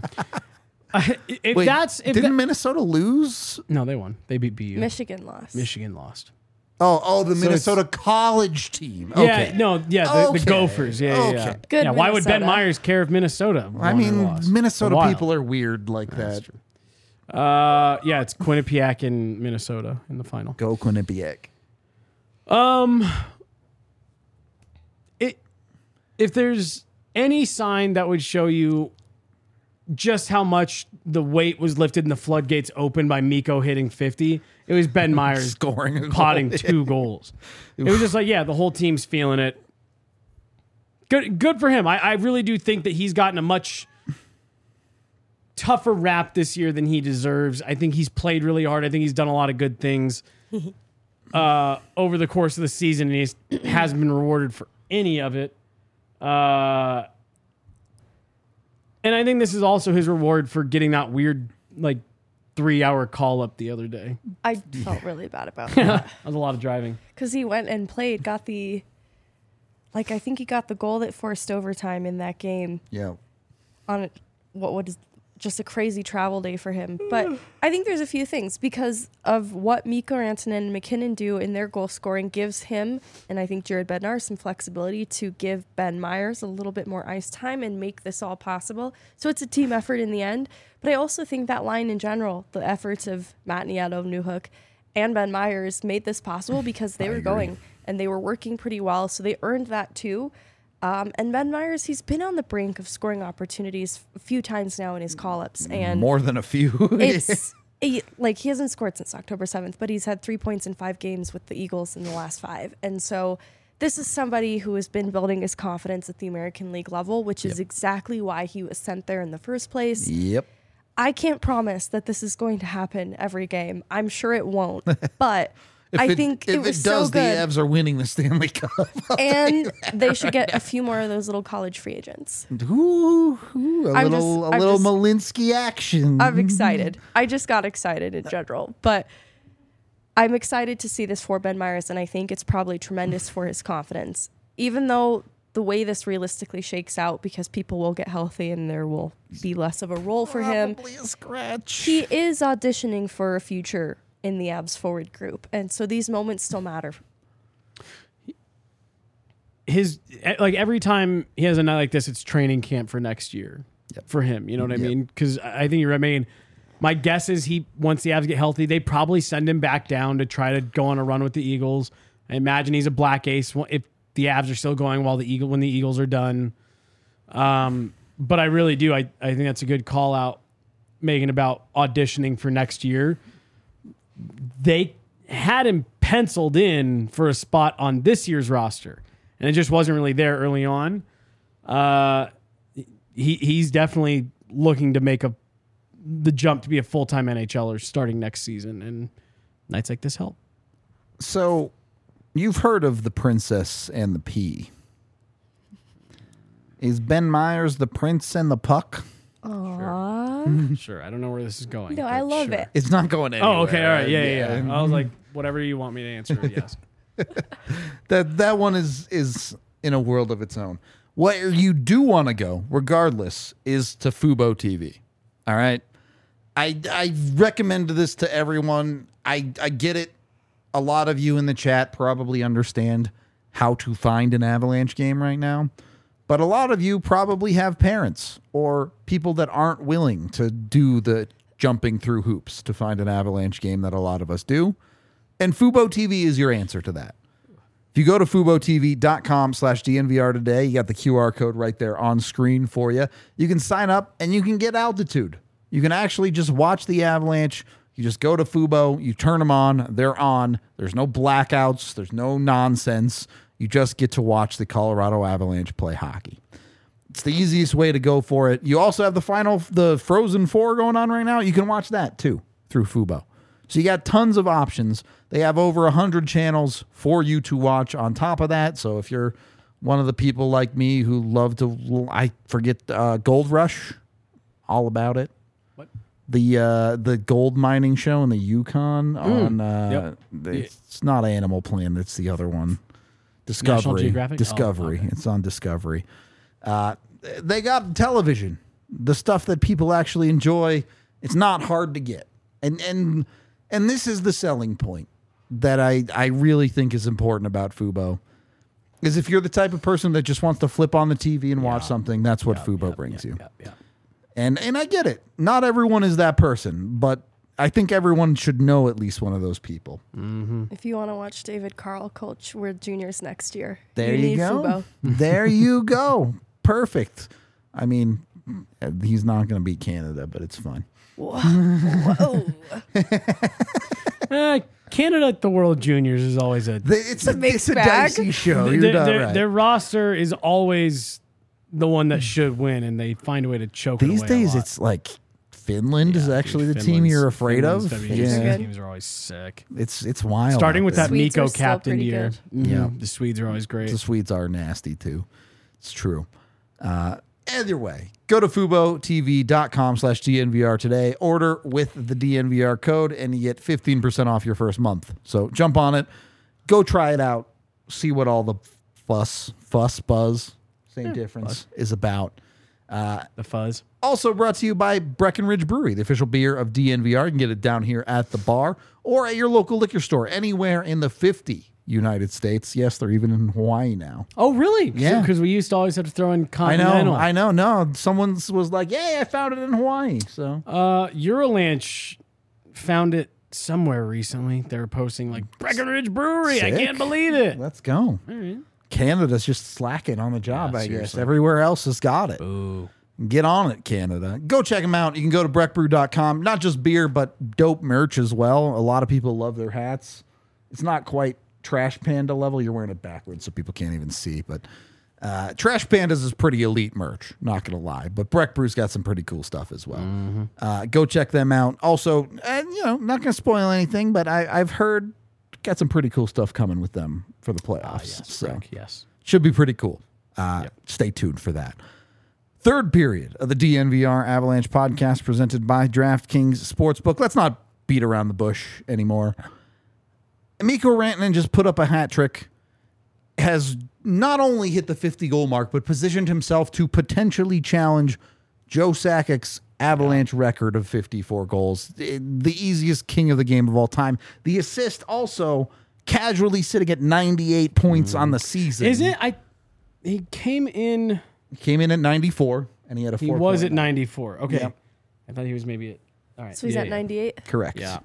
If Wait, that's if didn't that- Minnesota lose? no, they won. They beat B U. Michigan lost. Michigan lost. Oh, oh, the it's- Minnesota college team. Yeah, Okay. no, yeah, the, Okay. the Gophers. Yeah, yeah, yeah. Okay. Good yeah, why would Ben Minnesota. Myers care if Minnesota? I won or mean, lost? Minnesota Wild. people are weird like That's that. true. Uh, yeah, it's Quinnipiac and Minnesota in the final. Go Quinnipiac. Um, it if there's any sign that would show you just how much the weight was lifted and the floodgates opened by Mikko hitting fifty, it was Ben Myers Scoring a goal. potting two goals. It was just like, yeah, the whole team's feeling it. Good, good for him. I, I really do think that he's gotten a much tougher rap this year than he deserves. I think he's played really hard. I think he's done a lot of good things uh, over the course of the season, and he hasn't been rewarded for any of it. Uh, and I think this is also his reward for getting that weird, like, three-hour call-up the other day. I felt really bad about that. That was a lot of driving. Because he went and played, got the, like, I think he got the goal that forced overtime in that game Yeah. on what was just a crazy travel day for him. But I think there's a few things because of what Mikko Rantanen and McKinnon do in their goal scoring gives him, and I think Jared Bednar, some flexibility to give Ben Myers a little bit more ice time and make this all possible. So it's a team effort in the end. But I also think that line in general, the efforts of Matt Nieto, Newhook, and Ben Myers made this possible because they were going and they were working pretty well. So they earned that too. Um, and Ben Myers, he's been on the brink of scoring opportunities a few times now in his call-ups. And More than a few. it's he, like he hasn't scored since October seventh, but he's had three points in five games with the Eagles in the last five. And so this is somebody who has been building his confidence at the American League level, which is exactly why he was sent there in the first place. Yep. I can't promise that this is going to happen every game. I'm sure it won't, but If I it, think if it was it does, so good. the Avs are winning the Stanley Cup. And they should get a few more of those little college free agents. Ooh, ooh, a I'm little, just- a I'm little just- Malinsky action. I'm excited. I just got excited in general, but I'm excited to see this for Ben Myers, and I think it's probably tremendous for his confidence. Even though the way this realistically shakes out, because people will get healthy and there will be less of a role for him, Probably a scratch. he is auditioning for a future in the Avs forward group, and so these moments still matter. His like every time he has a night like this, it's training camp for next year Yep. for him. You know what I Yep. mean? Because I think you're. I mean, my guess is he once the Avs get healthy, they probably send him back down to try to go on a run with the Eagles. I imagine he's a black ace if the Avs are still going while the Eagle when the Eagles are done. Um, but I really do. I I think that's a good call out, Megan, about auditioning for next year. They had him penciled in for a spot on this year's roster, and it just wasn't really there early on. Uh, he he's definitely looking to make a the jump to be a full time NHLer starting next season, and nights like this help. So, you've heard of the Princess and the Pea. Is Ben Myers the prince and the puck? Aww. Sure, I don't know where this is going. No, but I love sure. it. It. It's not going anywhere. Oh, okay, all right, yeah, yeah, yeah. I was like, whatever you want me to answer, yes. that that one is is in a world of its own. Where you do want to go, regardless, is to Fubo T V. All right, I I recommend this to everyone. I I get it. A lot of you in the chat probably understand how to find an Avalanche game right now, but a lot of you probably have parents or people that aren't willing to do the jumping through hoops to find an Avalanche game that a lot of us do. And Fubo T V is your answer to that. If you go to FuboTV.com slash DNVR today, you got the Q R code right there on screen for you. You can sign up and you can get altitude. You can actually just watch the Avalanche. You just go to Fubo, you turn them on, they're on. There's no blackouts, there's no nonsense. You just get to watch the Colorado Avalanche play hockey. It's the easiest way to go for it. You also have the final, the Frozen Four going on right now. You can watch that too through Fubo. So you got tons of options. They have over one hundred channels for you to watch on top of that. So if you're one of the people like me who love to, I forget, uh, Gold Rush, all about it. What? The uh, the gold mining show in the Yukon on, uh, Yep. the, it's not Animal Planet, it's the other one. Discovery. Geographic? Discovery. Oh, okay. It's on Discovery. Uh, they got television, the stuff that people actually enjoy. It's not hard to get. And, and, and this is the selling point that I, I really think is important about Fubo, is if you're the type of person that just wants to flip on the T V and watch Yeah. something, that's what Yep, Fubo yep, brings yep, you. yep, yep. And and I get it. Not everyone is that person, but I think everyone should know at least one of those people. If you want to watch David Carl coach World Juniors next year, There you you, need go. Fubo. There you go. Perfect. I mean, he's not going to beat Canada, but it's fine. Whoa. Whoa. Uh, Canada at the World Juniors is always a The- It's, a a, mixed it's a bag. dicey show. You're their, not their, right. their roster is always the one that should win, and they find a way to choke it These away a days, lot. it's like Finland Yeah, is dude, actually the team Finland's- you're afraid Finland's of. W G C Yeah, teams are always sick. it's it's wild. Starting out with there. that Swedes Miko are still captain pretty year. good. Mhm. Yeah. The Swedes are always great. The Swedes are nasty too. It's true. Uh, either way, go to FuboTV.com slash DNVR today. Order with the D N V R code, and you get fifteen percent off your first month. So jump on it. Go try it out. See what all the fuss, fuss, buzz, same difference, is about. The fuzz. Also brought to you by Breckenridge Brewery, the official beer of D N V R. You can get it down here at the bar or at your local liquor store, anywhere in the fifty United States. Yes, they're even in Hawaii now. Oh, really? Yeah. Because we used to always have to throw in I continental. know, I know. No, someone was like, "Yay, I found it in Hawaii." So Uh, Eurolanche found it somewhere recently. They were posting like Breckenridge Brewery. I Sick. can't believe it. let's go. Canada's just slacking on the job, Yeah, I guess. seriously. Everywhere else has got it. Ooh. Get on it, Canada. Go check them out. You can go to breck brew dot com. Not just beer, but dope merch as well. A lot of people love their hats. It's not quite Trash Panda level. You're wearing it backwards so people can't even see. But uh, Trash Pandas is pretty elite merch, not going to lie. But Breck Brew's got some pretty cool stuff as well. Uh, go check them out. Also, uh, you know, not going to spoil anything, but I, I've heard got some pretty cool stuff coming with them for the playoffs. Ah, yes, so Breck, yes. should be pretty cool. Uh, Stay tuned for that. Third period of the D N V R Avalanche podcast presented by DraftKings Sportsbook. Let's not beat around the bush anymore. Mikko Rantanen just put up a hat trick, has not only hit the fifty goal mark, but positioned himself to potentially challenge Joe Sakic's Avalanche record of fifty-four goals. The easiest king of the game of all time. The assist also casually sitting at ninety-eight points on the season. Is it? I. He came in. Came in at ninety-four, and he had a He four. was at ninety-four. Okay. Yep. I thought he was maybe at. All right. So he's yeah, at yeah. ninety-eight. Correct. Yeah.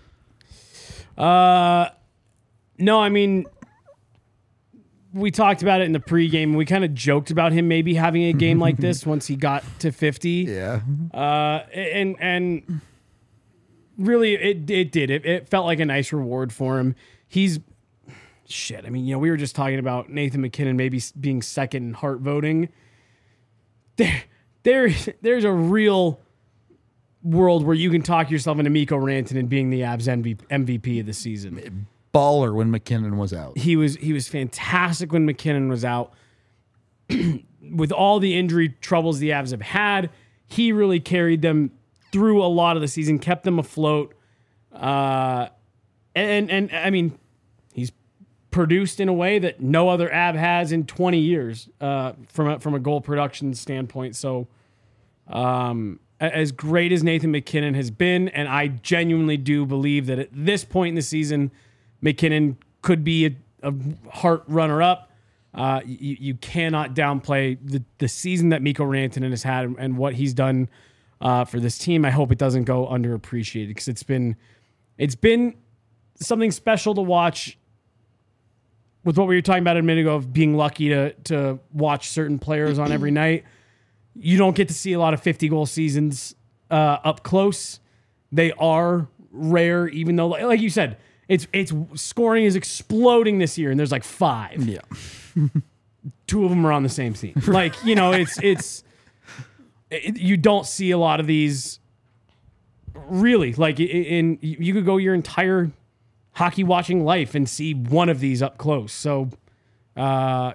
Uh, no, I mean, we talked about it in the pregame. We kind of joked about him maybe having a game like this once he got to fifty. Yeah. Uh, and and really, it it did. It, it felt like a nice reward for him. He's shit. I mean, you know, we were just talking about Nathan MacKinnon maybe s- being second in Hart voting. There, there, there's a real world where you can talk yourself into Mikko Rantanen being the Avs M V P of the season. Baller when McKinnon was out. He was he was fantastic when McKinnon was out. With all the injury troubles the Avs have had, he really carried them through a lot of the season, kept them afloat. Uh, and and I mean, he's produced in a way that no other Ab has in twenty years uh, from a, from a goal production standpoint. So, um, as great as Nathan MacKinnon has been, and I genuinely do believe that at this point in the season, MacKinnon could be a, a Hart runner-up. Uh, you, you cannot downplay the, the season that Mikko Rantanen has had and, and what he's done uh, for this team. I hope it doesn't go underappreciated because it's been it's been something special to watch. With what we were talking about a minute ago of being lucky to to watch certain players on every night, you don't get to see a lot of fifty goal seasons uh, up close. They are rare, even though, like you said, it's it's scoring is exploding this year, and there's like five. Yeah, two of them are on the same team. Like you know, it's it's it, you don't see a lot of these. Really, like in you could go your entire hockey watching life and see one of these up close. So uh,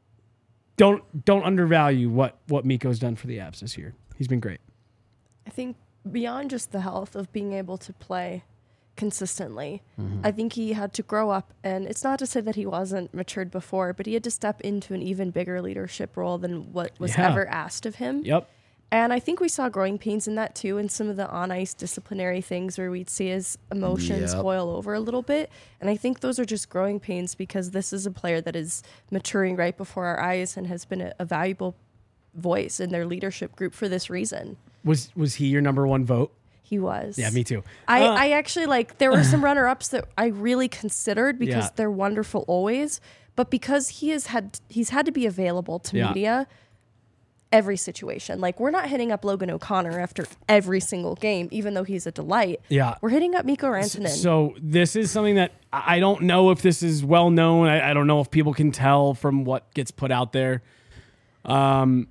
don't don't undervalue what what Mikko's done for the Avs this year. He's been great. I think beyond just the health of being able to play consistently, mm-hmm. I think he had to grow up, and it's not to say that he wasn't matured before, but he had to step into an even bigger leadership role than what was yeah. ever asked of him. Yep. And I think we saw growing pains in that too, in some of the on-ice disciplinary things where we'd see his emotions Yep. boil over a little bit. And I think those are just growing pains because this is a player that is maturing right before our eyes and has been a, a valuable voice in their leadership group for this reason. Was was he your number one vote? He was. Yeah, me too. I, Uh, I actually like, there were some runner-ups that I really considered because Yeah. they're wonderful always. But because he has had, he's had to be available to Yeah. media every situation. Like, we're not hitting up Logan O'Connor after every single game, even though he's a delight. Yeah. We're hitting up Mikko Rantanen. So this is something that I I don't know if this is well known. I, I don't know if people can tell from what gets put out there. Um,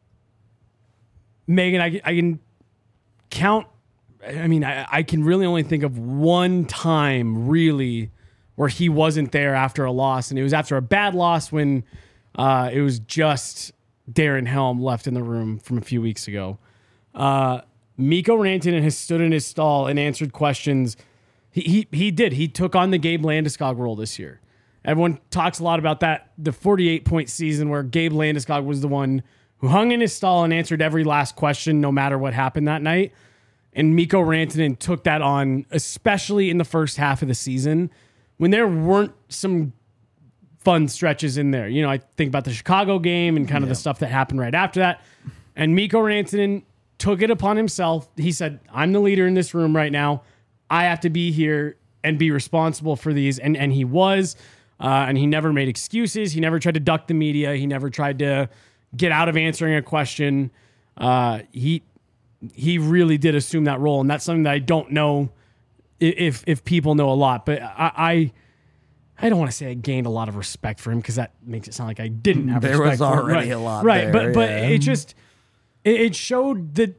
Megan, I, I can count. I mean, I, I can really only think of one time really where he wasn't there after a loss, and it was after a bad loss when uh, it was just Darren Helm left in the room from a few weeks ago. Uh, Mikko Rantanen has stood in his stall and answered questions. He, he he did. He took on the Gabe Landeskog role this year. Everyone talks a lot about that, the forty-eight point season where Gabe Landeskog was the one who hung in his stall and answered every last question no matter what happened that night. And Mikko Rantanen took that on, especially in the first half of the season when there weren't some fun stretches in there. You know, I think about the Chicago game and kind of Yeah. the stuff that happened right after that. And Mikko Rantanen took it upon himself. He said, I'm the leader in this room right now. I have to be here and be responsible for these. And, and he was, uh, and he never made excuses. He never tried to duck the media. He never tried to get out of answering a question. Uh, he, he really did assume that role. And that's something that I don't know if, if people know a lot, but I, I I don't want to say I gained a lot of respect for him because that makes it sound like I didn't have There respect was for him. already Right. a lot Right, there, but but yeah. it just it, it showed the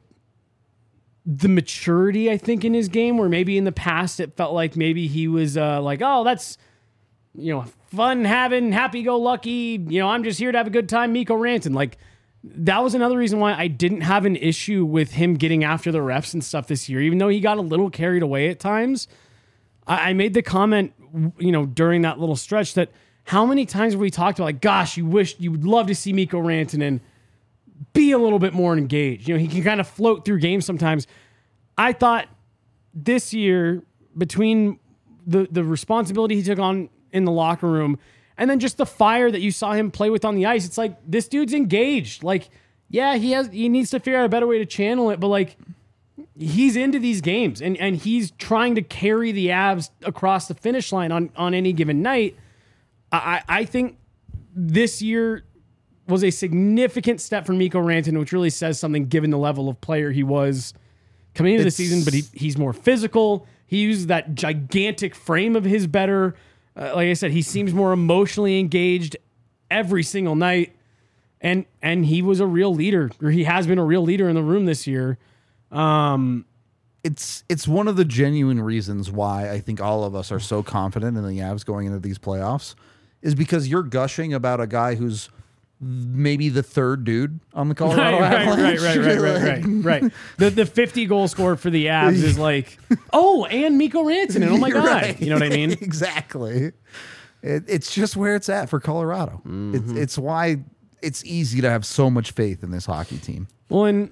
the maturity, I think, in his game where maybe in the past it felt like maybe he was uh, like, oh, that's you know, fun having, happy go lucky, you know, I'm just here to have a good time, Mikko Rantanen. Like that was another reason why I didn't have an issue with him getting after the refs and stuff this year, even though he got a little carried away at times. I, I made the comment, you know, during that little stretch that how many times have we talked about, like, gosh, you wish you would love to see Mikko Rantanen be a little bit more engaged. You know, he can kind of float through games sometimes. I thought this year, between the the responsibility he took on in the locker room and then just the fire that you saw him play with on the ice, it's like this dude's engaged. Like, yeah, he has he needs to figure out a better way to channel it, but like he's into these games and, and he's trying to carry the Avs across the finish line on, on any given night. I, I think this year was a significant step for Mikko Rantanen, which really says something given the level of player he was coming into It's- the season, but he, he's more physical. He uses that gigantic frame of his better. Uh, like I said, he seems more emotionally engaged every single night. And and he was a real leader, or he has been a real leader in the room this year. Um, It's it's one of the genuine reasons why I think all of us are so confident in the Avs going into these playoffs is because you're gushing about a guy who's maybe the third dude on the Colorado right, right, Avalanche. right, right, right, right, right, right. The the fifty goal scorer for the Avs is like, oh, and Mikko Rantanen. Oh my god, Right. you know what I mean? Exactly. It, it's just where it's at for Colorado. Mm-hmm. It's, it's why it's easy to have so much faith in this hockey team. Well, and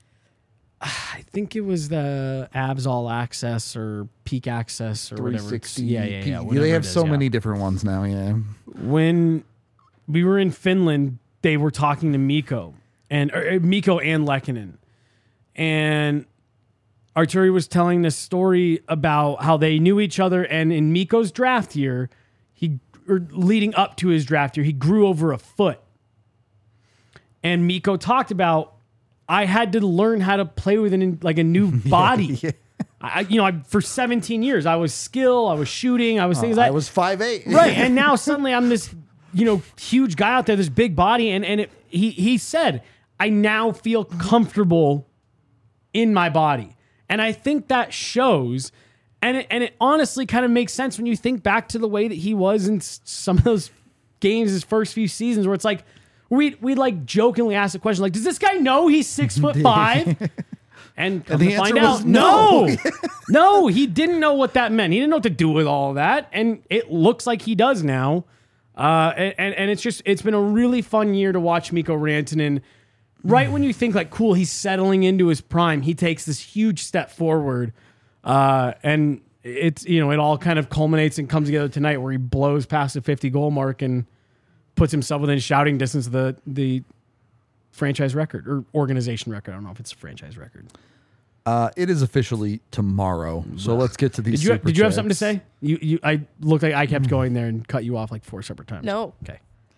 I think it was the Avs All Access or Peak Access or whatever. it's- Yeah, yeah, yeah. They whatever have it is, so yeah. many different ones now. Yeah. When we were in Finland, they were talking to Mikko and or, uh, Mikko and Lehkonen, and Arturi was telling this story about how they knew each other, and in Mikko's draft year, he or leading up to his draft year, he grew over a foot. And Mikko talked about, I had to learn how to play with an like a new body. Yeah. I, you know, I, for seventeen years, I was skill, I was shooting, I was things I like was five eight. right. And now suddenly I'm this, you know, huge guy out there, this big body, and and it, he he said, I now feel comfortable in my body, and I think that shows, and it, and it honestly kind of makes sense when you think back to the way that he was in s- some of those games, his first few seasons, where it's like we we like jokingly ask the question like, does this guy know he's six foot five? And come And the to find answer out, was no, no. no, he didn't know what that meant. He didn't know what to do with all that, and it looks like he does now. Uh, and and it's just it's been a really fun year to watch Mikko Rantanen. Right when you think like, cool, he's settling into his prime, he takes this huge step forward, uh, and it's you know it all kind of culminates and comes together tonight where he blows past the fifty goal mark and puts himself within shouting distance of the the franchise record or organization record. I don't know if it's a franchise record. Uh, it is officially tomorrow. So let's get to these. Did you super did you have chats. something to say? You you I looked like I kept going there and cut you off like four separate times. No. Okay.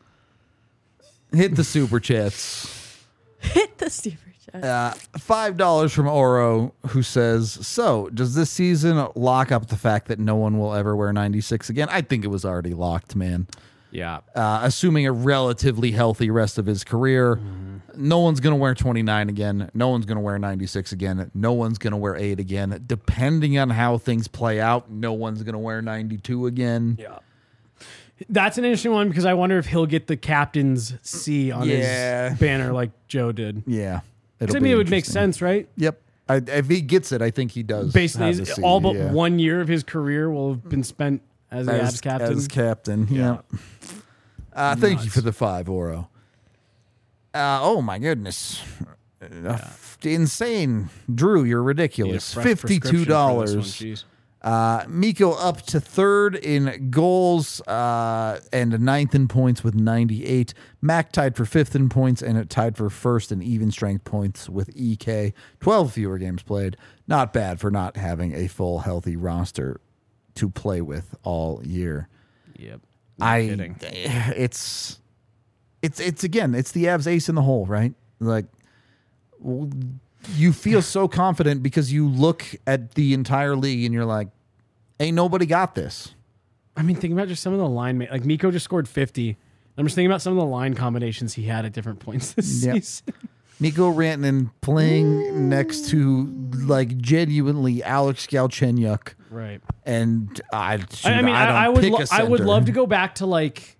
Hit the super chats. Hit the super chat. Uh, Five dollars from Oro, who says, "So, does this season lock up the fact that no one will ever wear ninety-six again?" I think it was already locked, man. Yeah. Uh, assuming a relatively healthy rest of his career, no one's gonna wear twenty-nine again. No one's gonna wear ninety-six again. No one's gonna wear eight again. Depending on how things play out, no one's gonna wear ninety-two again. Yeah. That's an interesting one because I wonder if he'll get the captain's C on Yeah. his banner like Joe did. Yeah, 'Cause it'll I be mean, it would make interesting. sense, right? Yep. I, if he gets it, I think he does. Basically, have he's- the C, all but yeah. one year of his career will have been spent as the as Avs captain. As captain, yeah. Uh, thank you for the five, Oro. Uh, oh my goodness, uh, f- insane, Drew! You're Need a ridiculous. fresh Fifty-two prescription for this dollars. one, jeez. Uh, Mikko up to third in goals uh, and ninth in points with ninety-eight. Mac tied for fifth in points and tied for first in even strength points with E K. twelve fewer games played. Not bad for not having a full healthy roster to play with all year. Yep. No I kidding. it's it's it's again it's the Avs ace in the hole, right? Like w- you feel so confident because you look at the entire league and you're like, ain't nobody got this. I mean, think about just some of the line, ma- like Mikko just scored fifty. I'm just thinking about some of the line combinations he had at different points this Yep. season. Mikko Rantanen playing next to like genuinely Alex Galchenyuk, Right. and I shoot, I, I mean, I, don't I would, pick lo- a I would center. love to go back to like,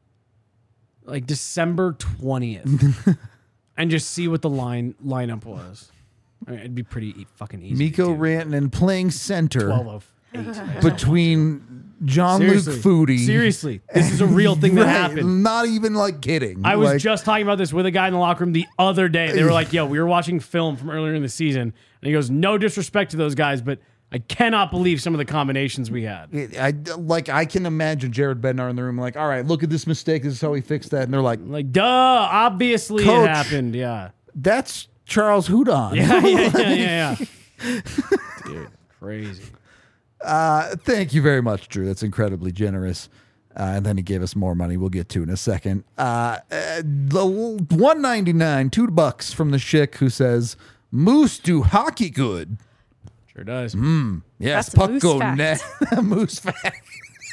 like December twentieth, and just see what the line lineup was. I mean, it'd be pretty e- fucking easy. Mikko to do. Rantanen playing center twelve of eight. between Jean-Luc Seriously. Foudy. Seriously, this is a real thing that Right, happened. Not even like kidding. I was Like, just talking about this with a guy in the locker room the other day. They were like, yo, we were watching film from earlier in the season. And he goes, no disrespect to those guys, but I cannot believe some of the combinations we had. I like I can imagine Jared Bednar in the room like, all right, look at this mistake. This is how he fixed that. And they're like, Like, duh, obviously Coach. it happened. Yeah. that's Charles Houdon. Yeah, yeah, yeah, yeah, yeah. Dude, crazy. Uh, thank you very much, Drew. That's incredibly generous. Uh, and then he gave us more money. We'll get to in a second. Uh, uh, the one ninety-nine, two bucks from the Schick who says, Moose do hockey good. Sure does. Yes, That's a puck moose go fact. net. Moose fact.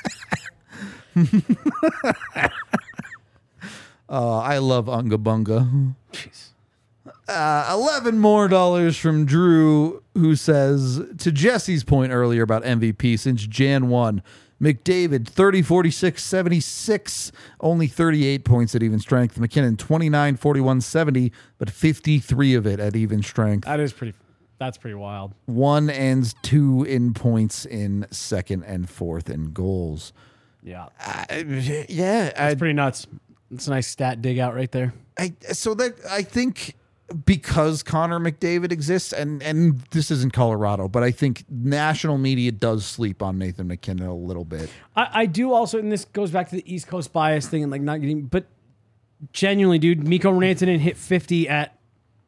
uh, I love Unga Bunga. Jeez. Uh, eleven more dollars from Drew, who says, to Jesse's point earlier about M V P, since Jan one, McDavid, thirty, forty-six, seventy-six, only thirty-eight points at even strength. McKinnon, twenty-nine, forty-one, seventy, but fifty-three of it at even strength. That is pretty, that's pretty wild. One and two in points in second and fourth in goals. Yeah. I, yeah, I, It's pretty nuts. It's a nice stat dig out right there. I so that I think because Connor McDavid exists, and and this isn't Colorado, but I think national media does sleep on Nathan McKinnon a little bit. I, I do also, and this goes back to the East Coast bias thing and like not getting, but genuinely, dude, Mikko Rantanen hit fifty at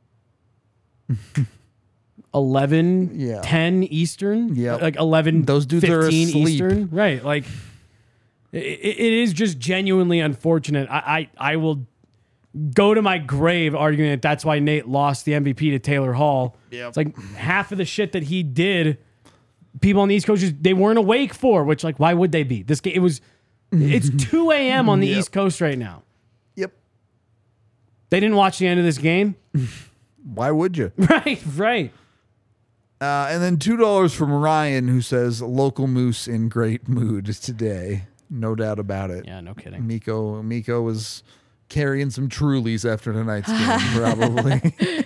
eleven, Yeah. ten Eastern. Yeah. Like eleven, Those dudes are fifteen asleep. Eastern. Right. Like, it, it is just genuinely unfortunate. I, I, I will go to my grave arguing that that's why Nate lost the M V P to Taylor Hall. Yep. It's like half of the shit that he did, people on the East Coast, just, they weren't awake for, which, like, why would they be? This game, it was, it's two a.m. on the Yep. East Coast right now. Yep. They didn't watch the end of this game. Why would you? Right, right. Uh, and then two dollars from Ryan, who says local moose in great mood today. No doubt about it. Yeah, no kidding. Miko Miko was carrying some Trulies after tonight's game, probably.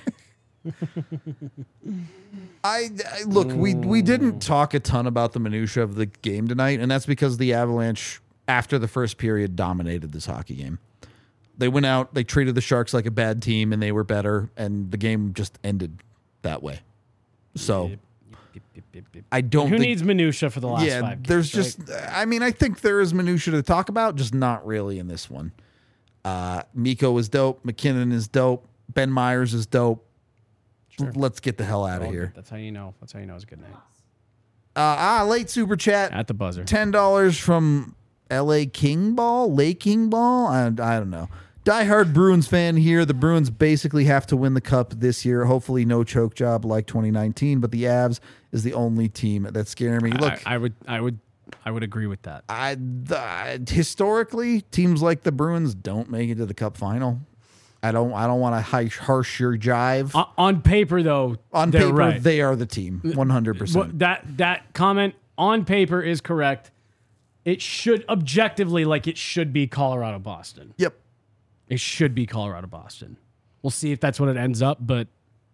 I, I look, we we didn't talk a ton about the minutia of the game tonight, and that's because the Avalanche, after the first period, dominated this hockey game. They went out, they treated the Sharks like a bad team, and they were better, and the game just ended that way. So I don't Who think, needs minutia for the last yeah, five games, there's right? just, I mean, I think there is minutia to talk about, just not really in this one. Uh, Miko is dope. McKinnon is dope. Ben Myers is dope. Sure. Let's get the hell out of All here. good. That's how you know. That's how you know it's a good night. Uh, ah, late super chat. At the buzzer. ten dollars from L A King Ball, Lake King Ball. I, I don't know. Diehard Bruins fan here. The Bruins basically have to win the cup this year. Hopefully, no choke job like twenty nineteen. But the Avs is the only team that's scaring me. Look, I, I would, I would, I would agree with that. I, the, historically, teams like the Bruins don't make it to the Cup final. I don't. I don't want to harsh your jive. On, on paper, though, On they're paper, right. they are the team, one hundred What- percent. that that comment on paper is correct. It should objectively, like it should be Colorado Boston. Yep. It should be Colorado Boston. We'll see if that's what it ends up, but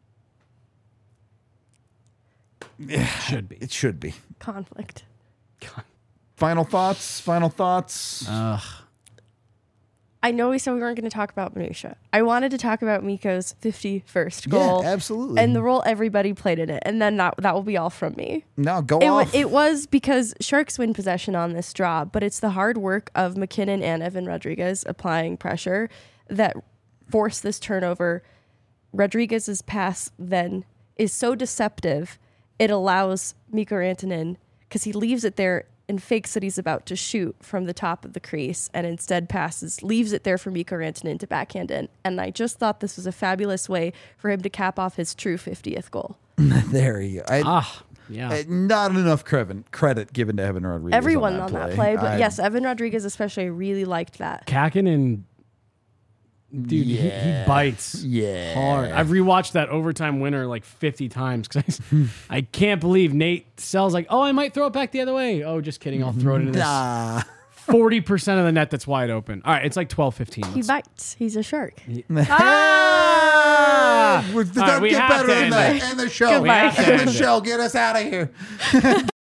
it should be. It should be. Conflict. Final thoughts. Final thoughts. Ugh. I know we said we weren't going to talk about minutia. I wanted to talk about Miko's fifty-first goal. Yeah, absolutely. And the role everybody played in it. And then that, that will be all from me. No, go It, wa- off. it was because Sharks win possession on this draw, but it's the hard work of McKinnon and Evan Rodriguez applying pressure that forced this turnover. Rodriguez's pass then is so deceptive, it allows Mikko Rantanen, because he leaves it there and fakes that he's about to shoot from the top of the crease and instead passes, leaves it there for Mikko Rantanen to backhand in. And I just thought this was a fabulous way for him to cap off his true fiftieth goal. There you go. I, Ah, yeah. uh, not enough credit, credit given to Evan Rodriguez. Everyone on on that that play, play, but I- yes, Evan Rodriguez especially, I really liked that. Kakin and dude, he, Yeah. he bites Yeah. hard. I've rewatched that overtime winner like fifty times because I, I can't believe Nate Sells like, oh, I might throw it back the other way. Oh, just kidding. I'll throw it into this Nah. forty percent of the net that's wide open. All right, it's like twelve fifteen. He bites. He's a shark. Ah! We're- All right, we get have better to than end that. it. End the show. Goodbye. We have to End end the it. show. Get us out of here.